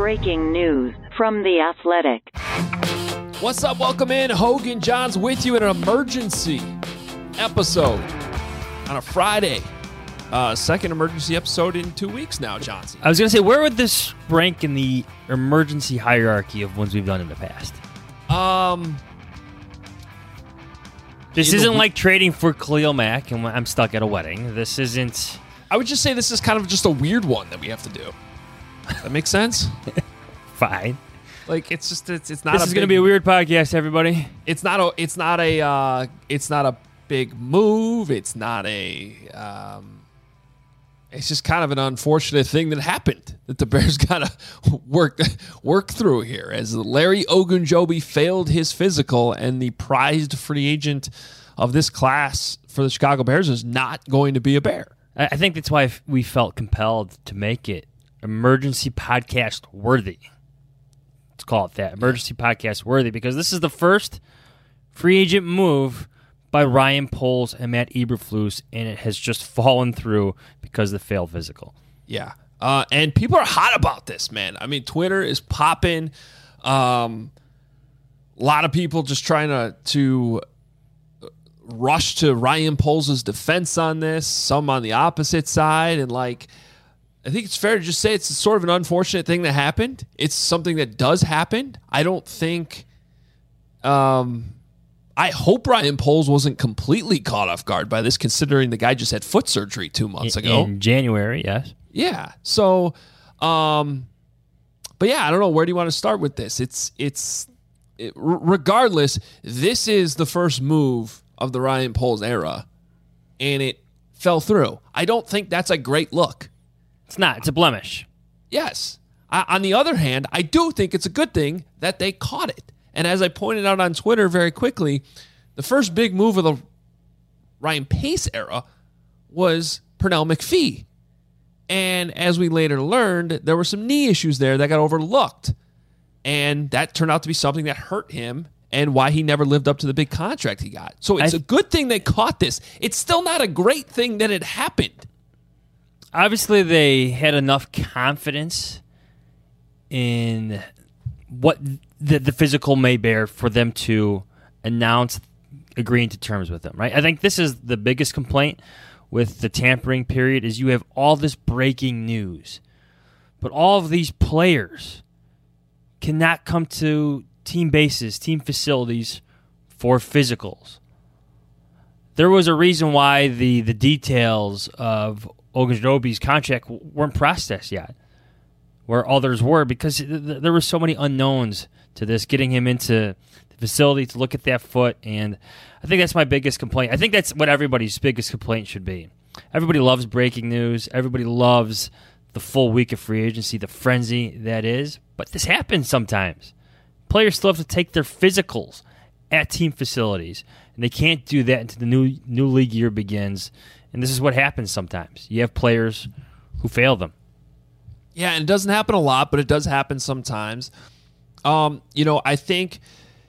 breaking news from The Athletic. What's up? Welcome in. Hogan Johns with you in an emergency episode on a Friday. Second emergency episode in 2 weeks now, Johnson. I was going to say, where would this rank in the emergency hierarchy of ones we've done in the past? This isn't like trading for Khalil Mack and I'm stuck at a wedding. This isn't... I would just say this is kind of just a weird one that we have to do. That makes sense? Fine. Like it's not. This is going to be a weird podcast, everybody. It's not a big move. It's not a. It's just kind of an unfortunate thing that happened that the Bears got to work through here, as Larry Ogunjobi failed his physical, and the prized free agent of this class for the Chicago Bears is not going to be a Bear. I think that's why we felt compelled to make it emergency podcast worthy. Let's call it that. Emergency podcast worthy, because this is the first free agent move by Ryan Poles and Matt Eberflus, and it has just fallen through because of the failed physical. Yeah. And people are hot about this, man. I mean, Twitter is popping. A lot of people just trying to rush to Ryan Poles' defense on this, some on the opposite side, and I think it's fair to just say it's sort of an unfortunate thing that happened. It's something that does happen. I don't think... I hope Ryan Poles wasn't completely caught off guard by this, considering the guy just had foot surgery 2 months ago. In January, yes. Yeah. So, but yeah, I don't know. Where do you want to start with this? Regardless, this is the first move of the Ryan Poles era, and it fell through. I don't think that's a great look. It's not. It's a blemish. Yes. On the other hand, I do think it's a good thing that they caught it. And as I pointed out on Twitter very quickly, the first big move of the Ryan Pace era was Pernell McPhee. And as we later learned, there were some knee issues there that got overlooked. And that turned out to be something that hurt him and why he never lived up to the big contract he got. So it's a good thing they caught this. It's still not a great thing that it happened. Obviously, they had enough confidence in what the physical may bear for them to announce agreeing to terms with them, right? I think this is the biggest complaint with the tampering period is you have all this breaking news, but all of these players cannot come to team bases, team facilities for physicals. There was a reason why the details of Ogunjobi's contract weren't processed yet, where others were, because there were so many unknowns to this, getting him into the facility to look at that foot. And I think that's my biggest complaint. I think that's what everybody's biggest complaint should be. Everybody loves breaking news. Everybody loves the full week of free agency, the frenzy that is. But this happens sometimes. Players still have to take their physicals at team facilities, and they can't do that until the new league year begins. And this is what happens sometimes. You have players who fail them. Yeah, and it doesn't happen a lot, but it does happen sometimes. I think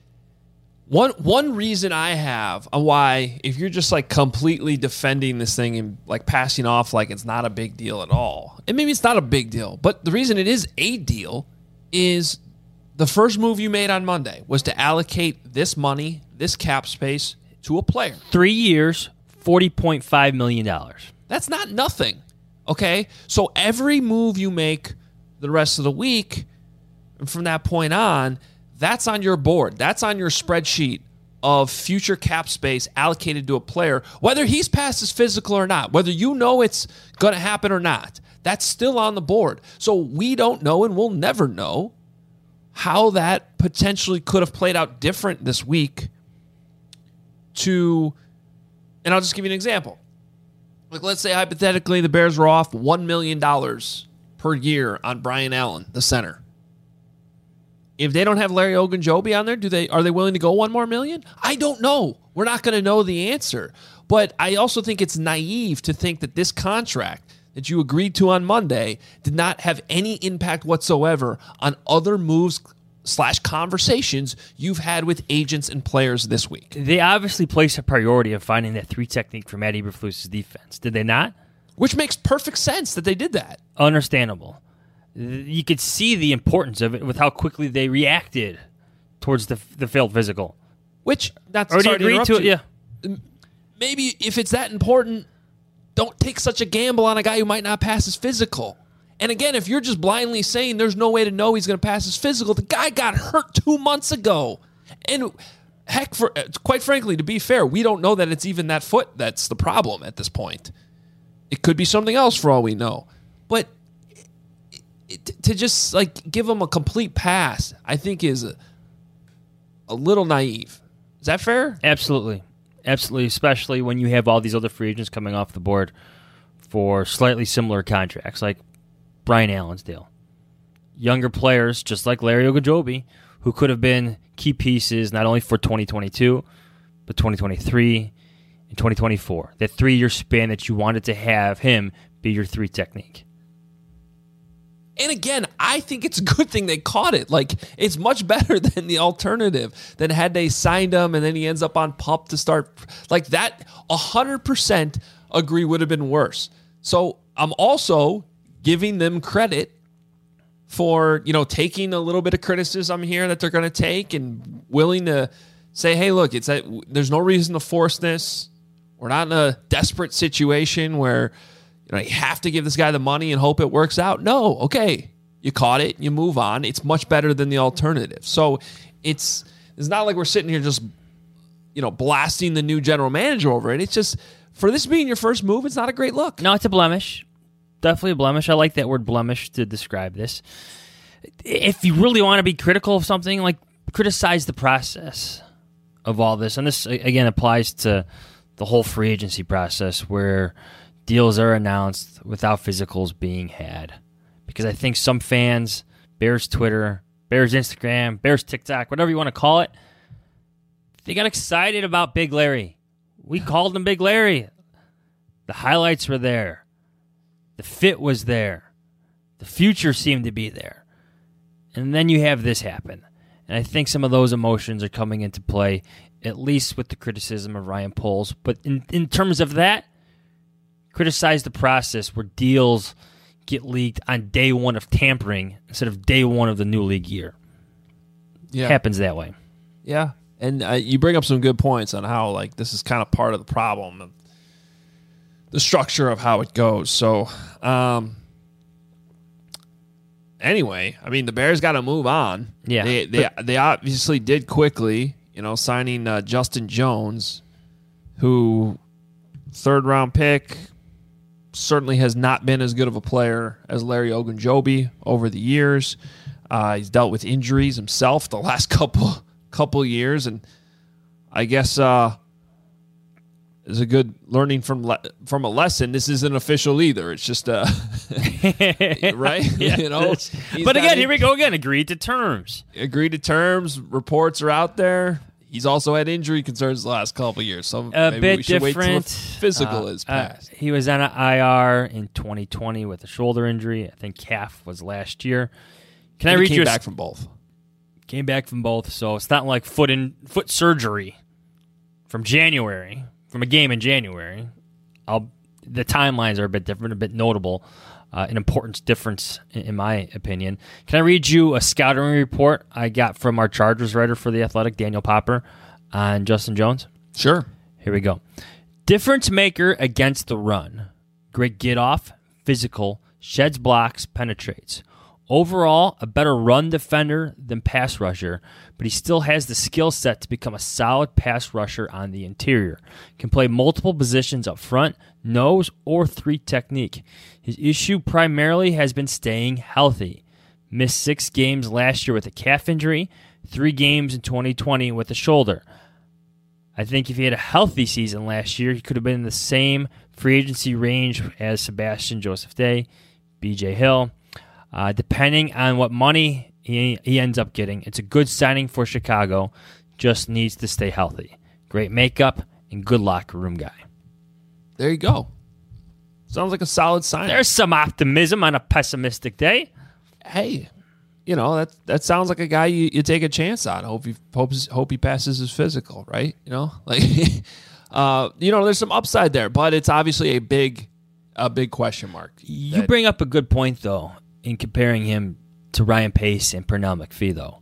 one reason I have why, if you're just completely defending this thing and passing off like it's not a big deal at all, and maybe it's not a big deal, but the reason it is a deal is the first move you made on Monday was to allocate this money, this cap space, to a player. 3 years, $40.5 million. That's not nothing. Okay, so every move you make the rest of the week, and from that point on, that's on your board. That's on your spreadsheet of future cap space allocated to a player, whether he's past his physical or not, whether you know it's going to happen or not. That's still on the board. So we don't know, and we'll never know, how that potentially could have played out different this week. And I'll just give you an example. Let's say hypothetically the Bears were off $1 million per year on Brian Allen, the center. If they don't have Larry Ogunjobi on there, are they willing to go $1 more million? I don't know. We're not going to know the answer. But I also think it's naive to think that this contract that you agreed to on Monday did not have any impact whatsoever on other moves / conversations you've had with agents and players this week. They obviously placed a priority of finding that 3 technique for Matt Eberflus' defense. Did they not? Which makes perfect sense that they did that. Understandable. you could see the importance of it with how quickly they reacted towards the failed physical. Which, that's Already agreed to it, yeah. Maybe if it's that important, don't take such a gamble on a guy who might not pass his physical. And again, if you're just blindly saying there's no way to know he's going to pass his physical, the guy got hurt 2 months ago. And heck, quite frankly, to be fair, we don't know that it's even that foot that's the problem at this point. It could be something else for all we know. But to just like give him a complete pass, I think is a little naive. Is that fair? Absolutely. Absolutely, especially when you have all these other free agents coming off the board for slightly similar contracts, like Brian Allensdale. Younger players, just like Larry Ogunjobi, who could have been key pieces not only for 2022, but 2023 and 2024. That 3-year span that you wanted to have him be your 3 technique. And again, I think it's a good thing they caught it. Like, it's much better than the alternative, than had they signed him and then he ends up on PUP to start. Like, that 100% agree would have been worse. So I'm also giving them credit for, taking a little bit of criticism here that they're going to take and willing to say, hey, look, there's no reason to force this. We're not in a desperate situation where you have to give this guy the money and hope it works out. No, okay. You caught it. You move on. It's much better than the alternative. So it's not like we're sitting here just, blasting the new general manager over it. It's just, for this being your first move, it's not a great look. No, it's a blemish. Definitely a blemish. I like that word blemish to describe this. If you really want to be critical of something, like criticize the process of all this. And this, again, applies to the whole free agency process where deals are announced without physicals being had. Because I think some fans, Bears Twitter, Bears Instagram, Bears TikTok, whatever you want to call it, they got excited about Big Larry. We called him Big Larry. The highlights were there. The fit was there. The future seemed to be there. And then you have this happen. And I think some of those emotions are coming into play, at least with the criticism of Ryan Poles. But in terms of that, criticize the process where deals get leaked on day one of tampering instead of day one of the new league year. Yeah. It happens that way. Yeah. And you bring up some good points on how this is kind of part of the problem of the structure of how it goes. So, anyway, I mean, the Bears got to move on. Yeah. They obviously did quickly, signing Justin Jones, who 3rd-round pick, certainly has not been as good of a player as Larry Ogunjobi over the years. He's dealt with injuries himself the last couple years, and I guess is a good learning from a lesson. This isn't official either. It's just right. Yeah, but again, here we go again. Agreed to terms. Reports are out there. He's also had injury concerns the last couple of years. So maybe we should wait till the physical is passed. He was on an IR in 2020 with a shoulder injury. I think calf was last year. Can I read you? Came back from both. Came back from both. So it's not like foot surgery from January, from a game in January. The timelines are a bit different, a bit notable. An important difference, in my opinion. Can I read you a scouting report I got from our Chargers writer for The Athletic, Daniel Popper, on Justin Jones? Sure. Here we go. Difference maker against the run. Great get off, physical, sheds blocks, penetrates. Overall, a better run defender than pass rusher, but he still has the skill set to become a solid pass rusher on the interior. Can play multiple positions up front, nose, or 3 technique. His issue primarily has been staying healthy. Missed 6 games last year with a calf injury, 3 games in 2020 with a shoulder. I think if he had a healthy season last year, he could have been in the same free agency range as Sebastian Joseph Day, B.J. Hill. Depending on what money he ends up getting, it's a good signing for Chicago. Just needs to stay healthy. Great makeup and good locker room guy. There you go. Sounds like a solid signing. There's some optimism on a pessimistic day. Hey, that sounds like a guy you take a chance on. Hope he passes his physical, right? There's some upside there, but it's obviously a big question mark. You bring up a good point, though. in comparing him to Ryan Pace and Pernell McPhee, though.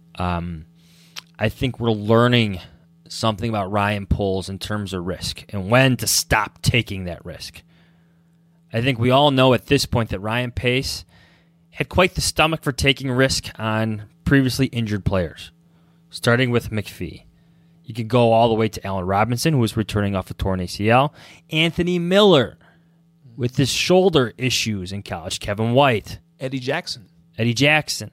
I think we're learning something about Ryan Poles in terms of risk and when to stop taking that risk. I think we all know at this point that Ryan Pace had quite the stomach for taking risk on previously injured players, starting with McPhee. You could go all the way to Allen Robinson, who was returning off a torn ACL, Anthony Miller with his shoulder issues in college, Kevin White, Eddie Jackson, Tevin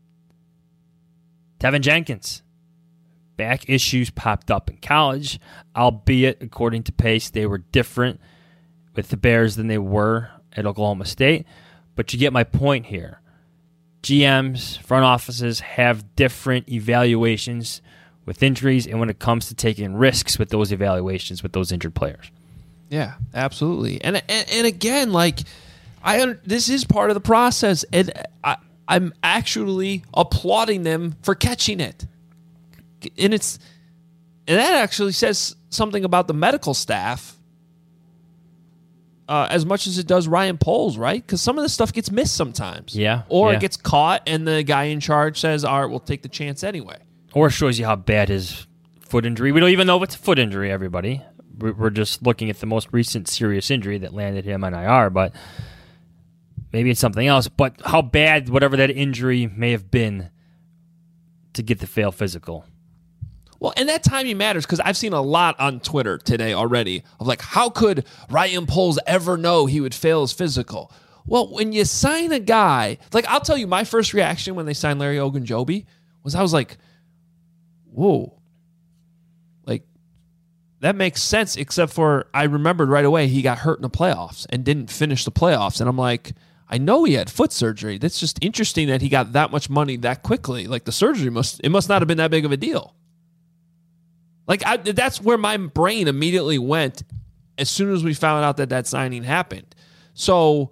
Jenkins. Back issues popped up in college, albeit, according to Pace, they were different with the Bears than they were at Oklahoma State. But you get my point here. GMs, front offices have different evaluations with injuries and when it comes to taking risks with those evaluations with those injured players. Yeah, absolutely. And again, like, this is part of the process, and I'm actually applauding them for catching it. And that actually says something about the medical staff as much as it does Ryan Poles, right? Because some of this stuff gets missed sometimes. Yeah. Or yeah. it gets caught, and the guy in charge says, all right, we'll take the chance anyway. Or shows you how bad his foot injury. We don't even know if it's a foot injury, everybody. We're just looking at the most recent serious injury that landed him on IR, but maybe it's something else. But how bad whatever that injury may have been to get the fail physical. Well, and that timing matters because I've seen a lot on Twitter today already of like, how could Ryan Poles ever know he would fail his physical? Well, when you sign a guy, like I'll tell you, my first reaction when they signed Larry Ogunjobi was I was like, whoa, like that makes sense, except for I remembered right away he got hurt in the playoffs and didn't finish the playoffs. And I'm like, I know he had foot surgery. That's just interesting that he got that much money that quickly. Like the surgery must not have been that big of a deal. Like that's where my brain immediately went as soon as we found out that signing happened. So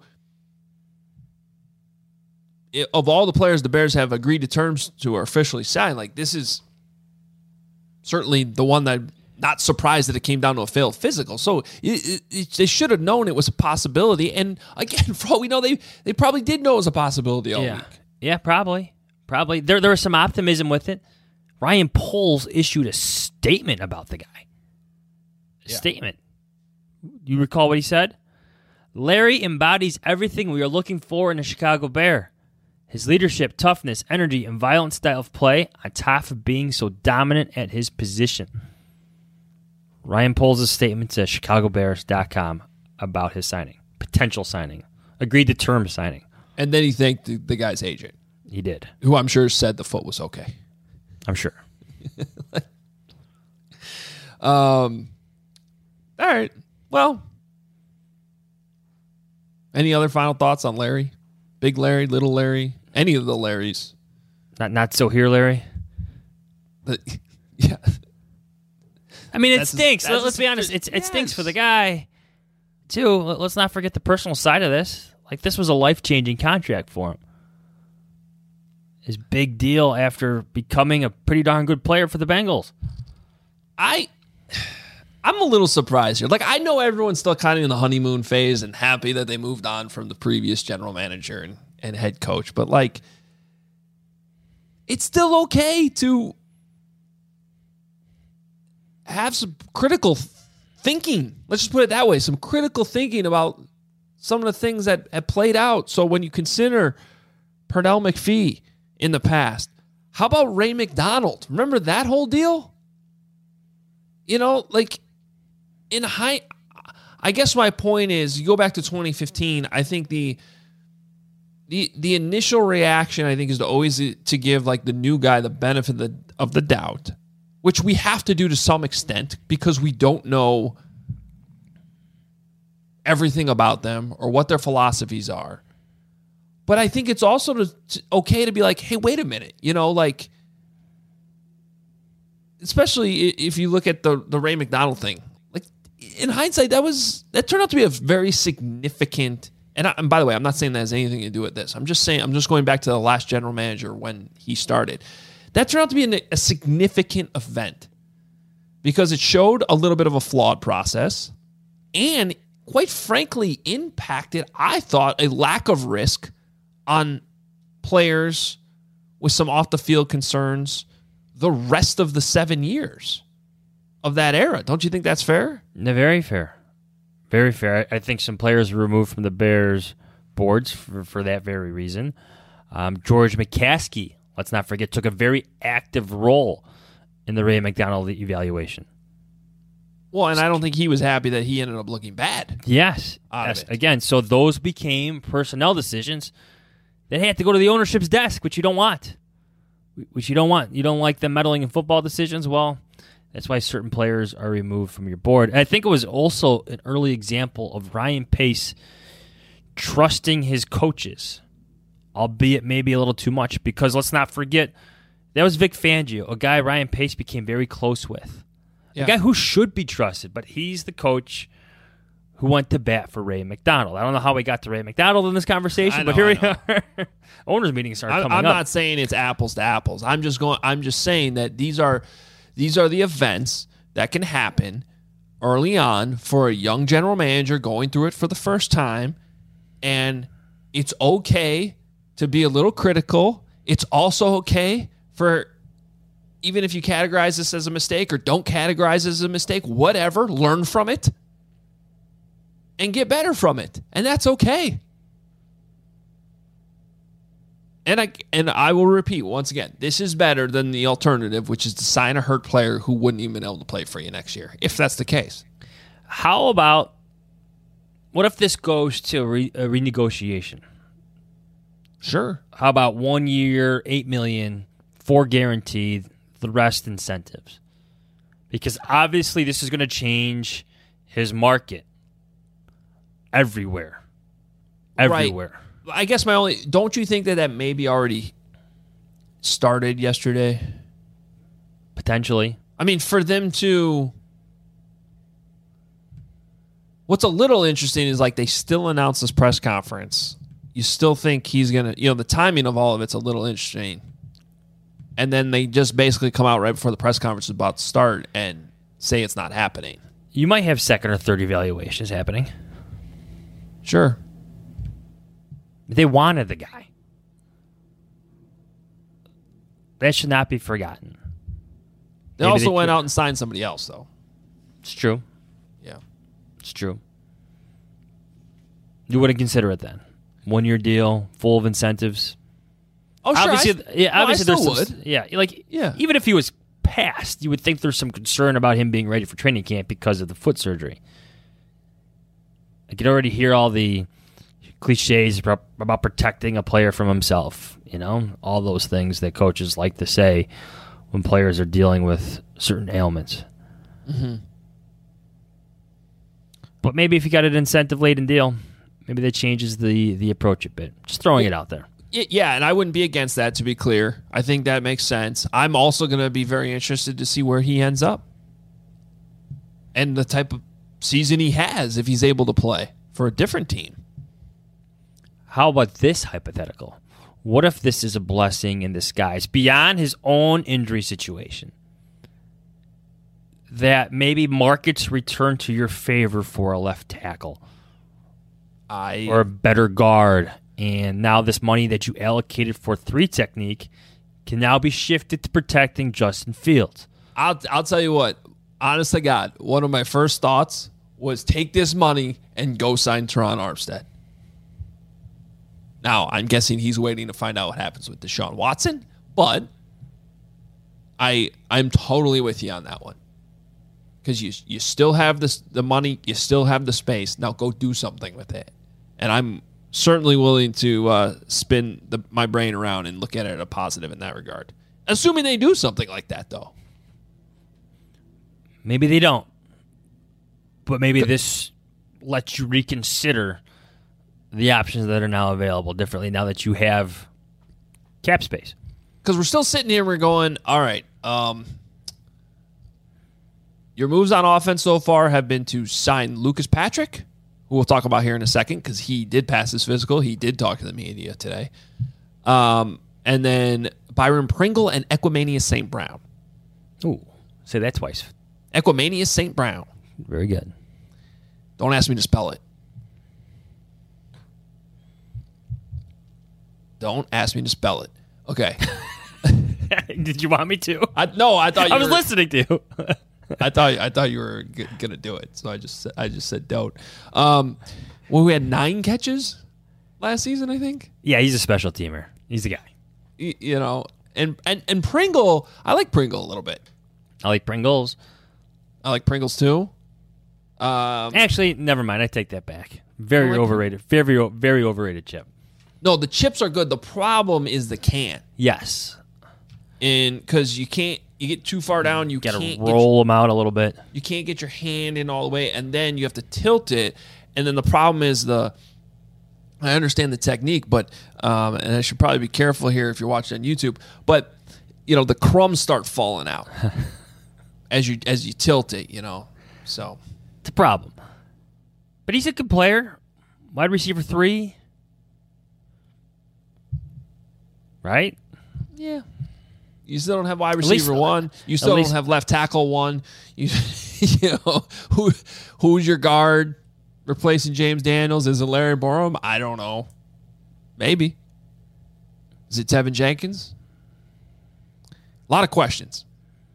of all the players the Bears have agreed to terms to or officially signed, like this is certainly the one that I'm not surprised that it came down to a failed physical. So they should have known it was a possibility. And again, for all we know, they probably did know it was a possibility all week. Yeah, probably. There was some optimism with it. Ryan Poles issued a statement about the guy. Statement. You recall what he said? Larry embodies everything we are looking for in a Chicago Bear. His leadership, toughness, energy, and violent style of play on top of being so dominant at his position. Ryan Poles' statement to ChicagoBears.com about his signing. Potential signing. Agreed to term signing. And then he thanked the guy's agent. He did. Who I'm sure said the foot was okay. I'm sure. All right. Well, any other final thoughts on Larry? Big Larry, little Larry, any of the Larrys? Not so here, Larry. Yeah. I mean, it stinks. Let's be honest. It stinks for the guy, too. Let's not forget the personal side of this. Like, this was a life-changing contract for him. His big deal after becoming a pretty darn good player for the Bengals. I'm a little surprised here. Like, I know everyone's still kind of in the honeymoon phase and happy that they moved on from the previous general manager and head coach, but like, it's still okay to have some critical thinking. Let's just put it that way. Some critical thinking about some of the things that have played out. So when you consider Pernell McPhee in the past, how about Ray McDonald? Remember that whole deal? You know, like in I guess my point is, you go back to 2015, I think the initial reaction, I think, is to always to give like the new guy the benefit of the doubt, which we have to do to some extent because we don't know everything about them or what their philosophies are. But I think it's also okay to be like, hey, wait a minute, you know, like, especially if you look at the Ray McDonald thing, like in hindsight, that turned out to be a very significant. And by the way, I'm not saying that has anything to do with this. I'm just going back to the last general manager when he started. That turned out to be a significant event because it showed a little bit of a flawed process and, quite frankly, impacted, I thought, a lack of risk on players with some off the field concerns the rest of the 7 years of that era. Don't you think that's fair? No, very fair. Very fair. I think some players were removed from the Bears boards for that very reason. George McCaskey, let's not forget, took a very active role in the Ray McDonald evaluation. Well, and I don't think he was happy that he ended up looking bad. Yes. Again, so those became personnel decisions that had to go to the ownership's desk, which you don't want. You don't like them meddling in football decisions. Well, that's why certain players are removed from your board. And I think it was also an early example of Ryan Pace trusting his coaches, albeit maybe a little too much, because let's not forget, that was Vic Fangio, a guy Ryan Pace became very close with. Yeah. A guy who should be trusted, but he's the coach who went to bat for Ray McDonald. I don't know how we got to Ray McDonald in this conversation, but here we are. Owners meetings started coming up. I'm not saying it's apples to apples. I'm just saying that these are the events that can happen early on for a young general manager going through it for the first time, and it's okay to be a little critical. It's also okay for, even if you categorize this as a mistake or don't categorize it as a mistake, whatever, learn from it and get better from it. And that's okay. And I will repeat once again, this is better than the alternative, which is to sign a hurt player who wouldn't even be able to play for you next year, if that's the case. How about, what if this goes to a renegotiation? Sure. How about 1 year, $8 million, 4 guaranteed, the rest incentives? Because obviously this is going to change his market everywhere. Everywhere. Right. I guess don't you think that maybe already started yesterday? Potentially. I mean, for them to, what's a little interesting is like they still announced this press conference. You still think he's going to, the timing of all of it's a little interesting. And then they just basically come out right before the press conference is about to start and say it's not happening. You might have second or third evaluations happening. Sure. They wanted the guy. That should not be forgotten. They also went out and signed somebody else, though. It's true. Yeah. It's true. You wouldn't consider it then? 1 year deal, full of incentives. Oh, sure. Obviously, obviously I still would. Yeah. Even if he was passed, you would think there's some concern about him being ready for training camp because of the foot surgery. I could already hear all the cliches about protecting a player from himself, all those things that coaches like to say when players are dealing with certain ailments. Mm-hmm. But maybe if you got an incentive-laden deal, maybe that changes the approach a bit. Just throwing it out there. Yeah, and I wouldn't be against that, to be clear. I think that makes sense. I'm also going to be very interested to see where he ends up and the type of season he has if he's able to play for a different team. How about this hypothetical? What if this is a blessing in disguise beyond his own injury situation? That maybe markets return to your favor for a left tackle or a better guard. And now this money that you allocated for 3 technique can now be shifted to protecting Justin Fields. I'll tell you what, honest to God, one of my first thoughts was take this money and go sign Teron Armstead. Now, I'm guessing he's waiting to find out what happens with Deshaun Watson, but I'm totally with you on that one. Because you still have the money, you still have the space. Now go do something with it. And I'm certainly willing to spin my brain around and look at it as a positive in that regard. Assuming they do something like that, though. Maybe they don't. But maybe this lets you reconsider the options that are now available differently now that you have cap space. Because we're still sitting here and we're going, all right, your moves on offense so far have been to sign Lucas Patrick, who we'll talk about here in a second because he did pass his physical. He did talk to the media today. And then Byron Pringle and Equimanius St. Brown. Ooh, say that twice. Equimanius St. Brown. Very good. Don't ask me to spell it. Don't ask me to spell it. Okay. Did you want me to? I thought you I was were, listening to you. I thought you were gonna do it, so I just said don't. Well, we had 9 catches last season, I think. Yeah, he's a special teamer. He's the guy. You know, and Pringle, I like Pringle a little bit. I like Pringles. I like Pringles too. Actually, never mind. I take that back. Very like overrated. Very overrated chip. No, the chips are good. The problem is the can, Yes. and because you get too far down, you Got can't to roll them out a little bit. you can't get your hand in all the way, and then you have to tilt it. And then the problem is I understand the technique, but and I should probably be careful here if you're watching on YouTube. But you know, the crumbs start falling out as you tilt it. You know, so It's a problem. But he's a good player. Wide receiver 3. Right? yeah. You still don't have wide least- receiver 1. You still least- don't have left tackle 1. You know who's your guard replacing James Daniels? Is it Larry Borum? I don't know. Maybe. Is it Tevin Jenkins? A lot of questions.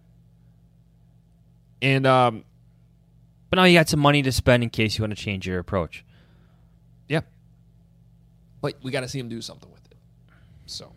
And But now you got some money to spend in case you want to change your approach. yeah. But we got to see him do something with it. So.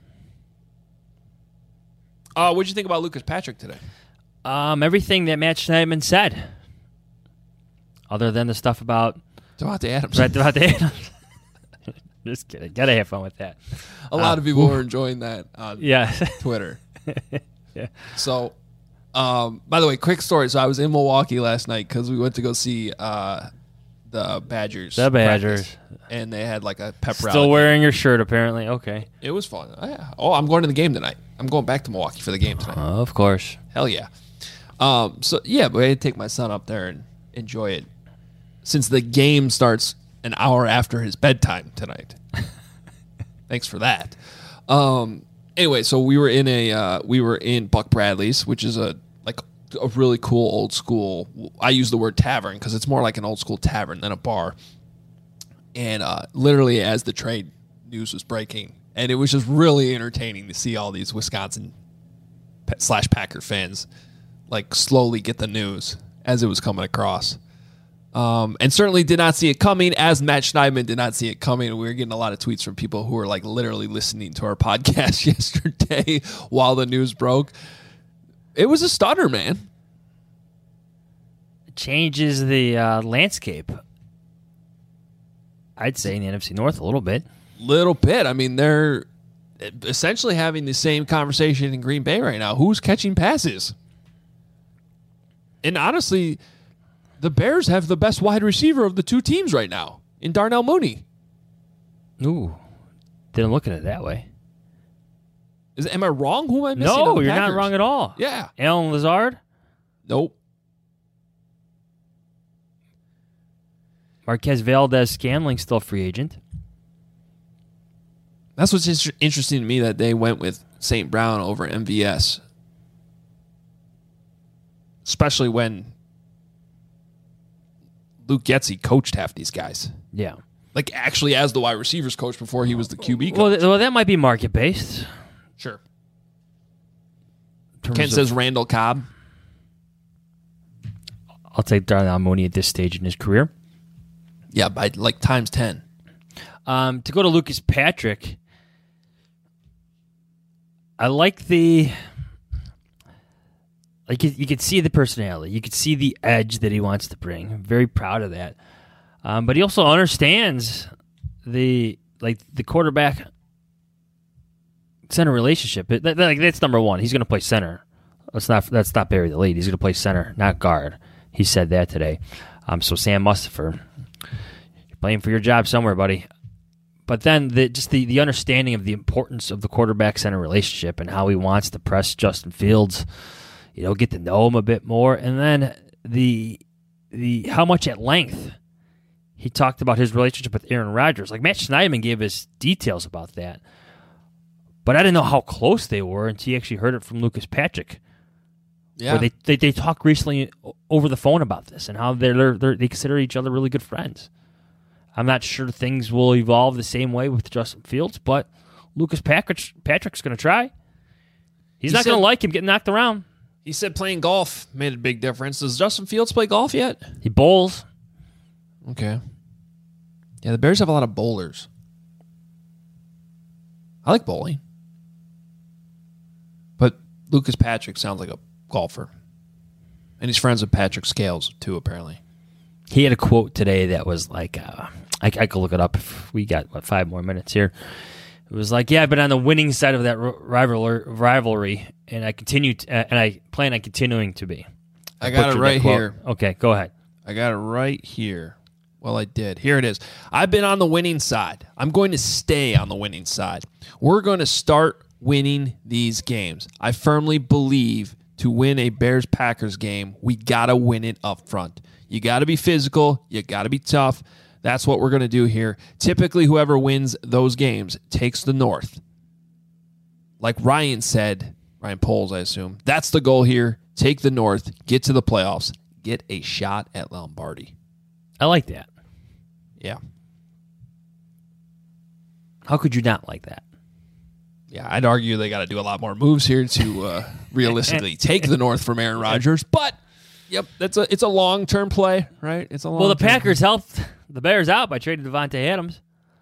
What'd you think about Lucas Patrick today? Everything that Matt Schneidman said. Other than the stuff about Devontae Adams. right about the Adams. Just kidding. Gotta have fun with that. A lot of people were enjoying that on Yeah. Twitter. Yeah. So, by the way, quick story. So I was in Milwaukee last night because we went to go see the Badgers. The Badgers. practice, and they had like a pep rally. Still wearing your shirt, apparently. Okay. It was fun. Oh, yeah. Oh, I'm going to the game tonight. I'm going back to Milwaukee for the game tonight. Of course. Hell yeah. So yeah, but I had to take my son up there and enjoy it since the game starts an hour after his bedtime tonight. Thanks for that. Anyway, so we were in Buck Bradley's, which is a really cool old school. I use the word tavern because it's more like an old school tavern than a bar. And literally, as the trade news was breaking, and it was just really entertaining to see all these Wisconsin / Packer fans like slowly get the news as it was coming across. And certainly did not see it coming, as Matt Schneidman did not see it coming. We were getting a lot of tweets from people who were like literally listening to our podcast yesterday while the news broke. It was a stunner, man. It changes the landscape. I'd say in the NFC North a little bit. Little bit. I mean, they're essentially having the same conversation in Green Bay right now. Who's catching passes? And honestly, the Bears have the best wide receiver of the two teams right now in Darnell Mooney. Ooh. Didn't look at it that way. Am I wrong? Who am I missing? No, on the you're not Packers? wrong at all. Yeah. Alan Lazard, Nope. Marquez Valdez-Scantling still free agent. That's what's interesting to me, that they went with St. Brown over MVS. Especially when Luke Getsy coached half these guys. Yeah. Like, actually as the wide receivers coach before he was the QB coach. Well, that might be market based. Sure. Ken says Randall Cobb. I'll take Darnell Mooney at this stage in his career. Yeah, by like times 10. To go to Lucas Patrick, I like you could see the personality. You could see the edge that he wants to bring. I'm very proud of that. But he also understands the quarterback center relationship. That's number one. He's going to play center. Let's not bury the lead. He's going to play center, not guard. He said that today. So Sam Mustipher, you're playing for your job somewhere, buddy. But then the understanding of the importance of the quarterback center relationship and how he wants to press Justin Fields, get to know him a bit more, and then the how much at length he talked about his relationship with Aaron Rodgers. Like, Matt Schneidman gave us details about that, but I didn't know how close they were until he actually heard it from Lucas Patrick. Yeah. Where they talked recently over the phone about this and how they consider each other really good friends. I'm not sure things will evolve the same way with Justin Fields, but Lucas Patrick's going to try. He's not going to like him getting knocked around. He said playing golf made a big difference. Does Justin Fields play golf yet? He bowls. Okay. Yeah, the Bears have a lot of bowlers. I like bowling. But Lucas Patrick sounds like a golfer. And he's friends with Patrick Scales, too, apparently. He had a quote today that was like, I could look it up if we got, 5 more minutes here. It was like, yeah, I've been on the winning side of that rivalry, and I plan on continuing to be. I got it right here. Okay, go ahead. I got it right here. Well, I did. Here it is. I've been on the winning side. I'm going to stay on the winning side. We're going to start winning these games. I firmly believe to win a Bears-Packers game, we got to win it up front. You got to be physical. You got to be tough. That's what we're going to do here. Typically, whoever wins those games takes the North. Like Ryan said, Ryan Poles, I assume, that's the goal here. Take the North, get to the playoffs, get a shot at Lombardi. I like that. Yeah. How could you not like that? Yeah, I'd argue they got to do a lot more moves here to realistically take the North from Aaron Rodgers. But, yep, it's a long-term play, right? It's a long. Well, the Packers helped the Bears out by trading Davante Adams.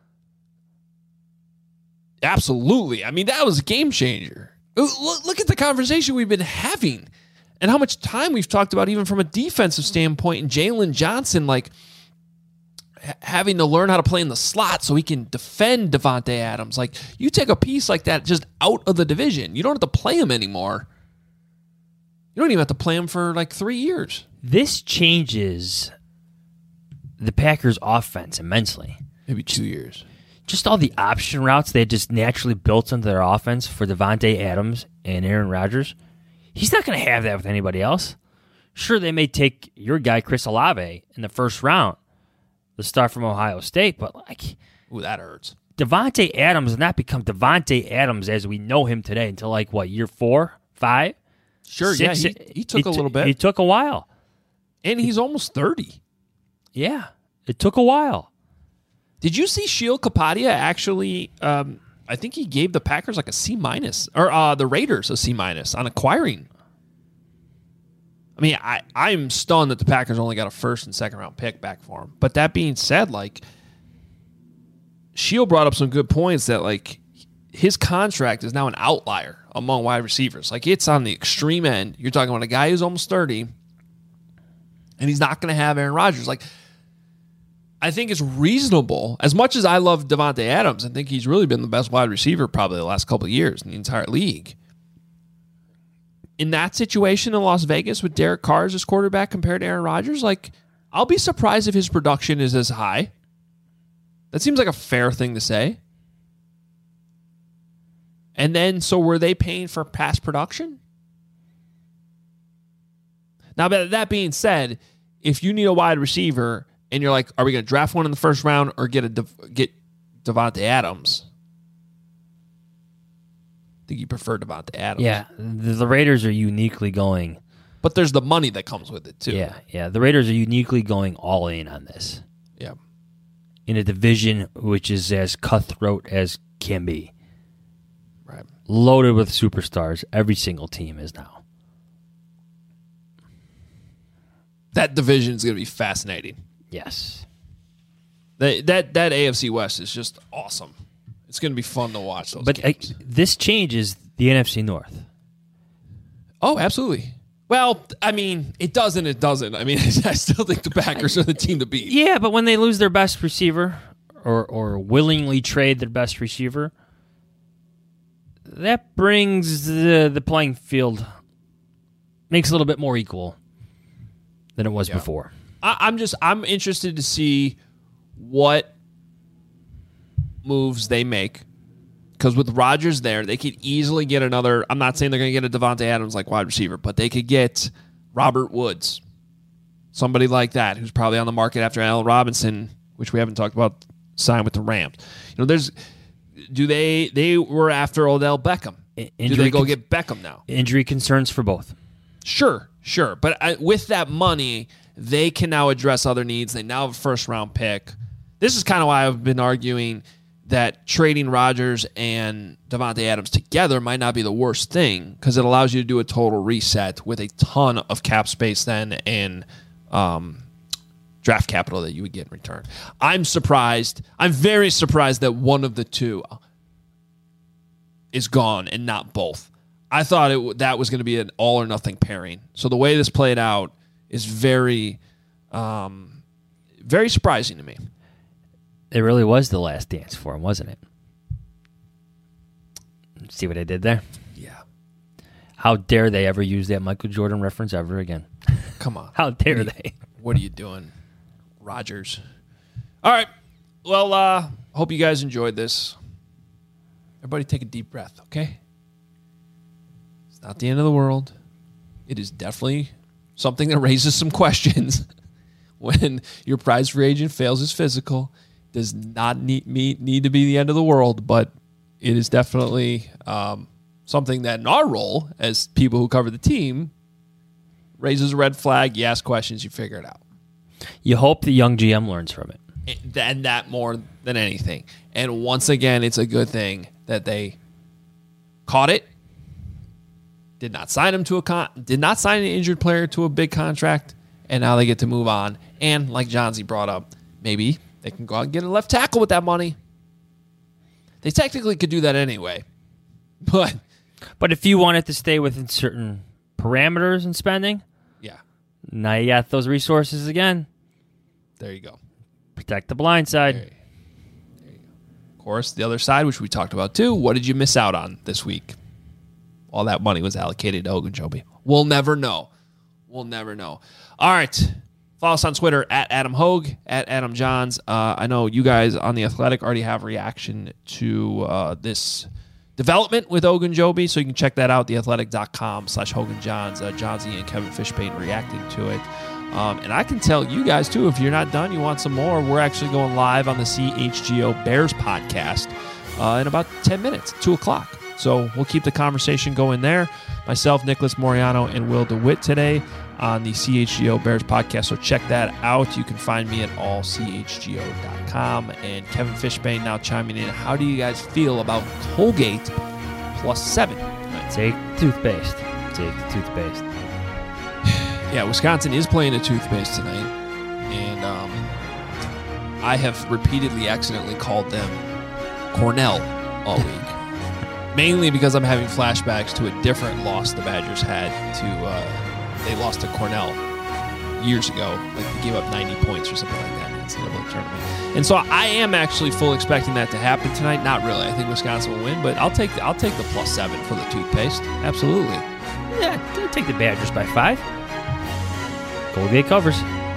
Absolutely. I mean, that was a game changer. Look at the conversation we've been having and how much time we've talked about even from a defensive standpoint, and Jalen Johnson, like, having to learn how to play in the slot so he can defend Davante Adams. Like, you take a piece like that just out of the division. You don't have to play him anymore. You don't even have to play him for like 3 years. This changes the Packers' offense immensely. Maybe 2 years. Just all the option routes they had just naturally built into their offense for Davante Adams and Aaron Rodgers. He's not going to have that with anybody else. Sure, they may take your guy, Chris Olave, in the first round, the star from Ohio State, but like, ooh, that hurts. Davante Adams has not become Davante Adams as we know him today until like what, year 4, 5? Sure, 6, yeah, he took a little bit. He took a while. And he's almost 30. Yeah, it took a while. Did you see Sheil Kapadia actually, I think he gave the Packers like a C-, or the Raiders a C- on acquiring. I mean, I'm stunned that the Packers only got a first and second round pick back for him. But that being said, like, Sheil brought up some good points that, like, his contract is now an outlier among wide receivers. Like, it's on the extreme end. You're talking about a guy who's almost 30, and he's not going to have Aaron Rodgers. Like, I think it's reasonable. As much as I love Davante Adams, I think he's really been the best wide receiver probably the last couple of years in the entire league. In that situation in Las Vegas with Derek Carr as his quarterback compared to Aaron Rodgers, like, I'll be surprised if his production is as high. That seems like a fair thing to say. And then, so were they paying for past production? Now, that being said, if you need a wide receiver and you're like, are we going to draft one in the first round or get Davante Adams? I think you prefer Davante Adams. Yeah, the Raiders are uniquely going. But there's the money that comes with it, too. Yeah. The Raiders are uniquely going all in on this. Yeah. In a division which is as cutthroat as can be. Right. Loaded with superstars. Every single team is now. That division is going to be fascinating. Yes. That AFC West is just awesome. It's going to be fun to watch those games. This changes the NFC North. Oh, absolutely. Well, I mean, it does and it doesn't. I mean, I still think the Packers are the team to beat. Yeah, but when they lose their best receiver or willingly trade their best receiver, that brings the playing field, makes it a little bit more equal than it was before. I'm interested to see what moves they make, because with Rodgers there, they could easily get another. I'm not saying they're going to get a Davante Adams like wide receiver, but they could get Robert Woods, somebody like that, who's probably on the market after Allen Robinson, which we haven't talked about, signed with the Rams. You know, they were after Odell Beckham. Do they go get Beckham now? Injury concerns for both. Sure. But with that money, they can now address other needs. They now have a first-round pick. This is kind of why I've been arguing that trading Rodgers and Davante Adams together might not be the worst thing because it allows you to do a total reset with a ton of cap space then and draft capital that you would get in return. I'm surprised. I'm very surprised that one of the two is gone and not both. I thought that was going to be an all or nothing pairing. So the way this played out is very, very surprising to me. It really was the last dance for him, wasn't it? See what I did there? Yeah. How dare they ever use that Michael Jordan reference ever again? Come on. How dare they? What are you doing, Rodgers? All right. Well, hope you guys enjoyed this. Everybody take a deep breath, okay? It's not the end of the world. It is definitely something that raises some questions when your prize free agent fails his physical. Does not need to be the end of the world, but it is definitely something that in our role as people who cover the team raises a red flag. You ask questions, you figure it out. You hope the young GM learns from it. And that more than anything. And once again, it's a good thing that they caught it, did not sign him to did not sign an injured player to a big contract, and now they get to move on. And like Johnsy brought up, maybe they can go out and get a left tackle with that money. They technically could do that anyway. But if you wanted to stay within certain parameters and spending, yeah, now you got those resources again. There you go. Protect the blind side. There you go. Of course, the other side, which we talked about too, what did you miss out on this week? All that money was allocated to Ogunjobi. We'll never know. We'll never know. All right. Follow us on Twitter at Adam Hogue, at Adam Johns. I know you guys on The Athletic already have a reaction to this development with Ogunjobi, so you can check that out, theathletic.com/HoganJohns. Johnsy and Kevin Fishbane reacting to it. And I can tell you guys, too, if you're not done, you want some more, we're actually going live on the CHGO Bears podcast in about 10 minutes, 2 o'clock. So we'll keep the conversation going there. Myself, Nicholas Moriano, and Will DeWitt today on the CHGO Bears podcast. So check that out. You can find me at allchgo.com. And Kevin Fishbane now chiming in. How do you guys feel about Colgate +7? Take toothpaste. Take the toothpaste. Yeah, Wisconsin is playing a toothpaste tonight. And I have repeatedly accidentally called them Cornell all week. Mainly because I'm having flashbacks to a different loss the Badgers had to, they lost to Cornell years ago. Like they gave up 90 points or something like that in the NCAA tournament. And so I am actually full expecting that to happen tonight. Not really. I think Wisconsin will win, but I'll take the +7 for the toothpaste. Absolutely. Yeah, I'll take the Badgers by 5. Colgate covers.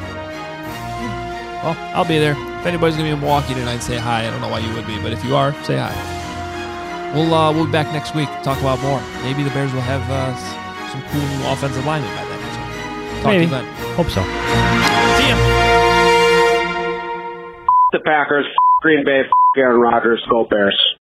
Well, I'll be there. If anybody's going to be in Milwaukee tonight, say hi. I don't know why you would be, but if you are, say hi. We'll be back next week to talk about more. Maybe the Bears will have some cool new offensive linemen by then. Talk Maybe. to you then. Hope so. See ya. The Packers, Green Bay, Aaron Rodgers, go Bears.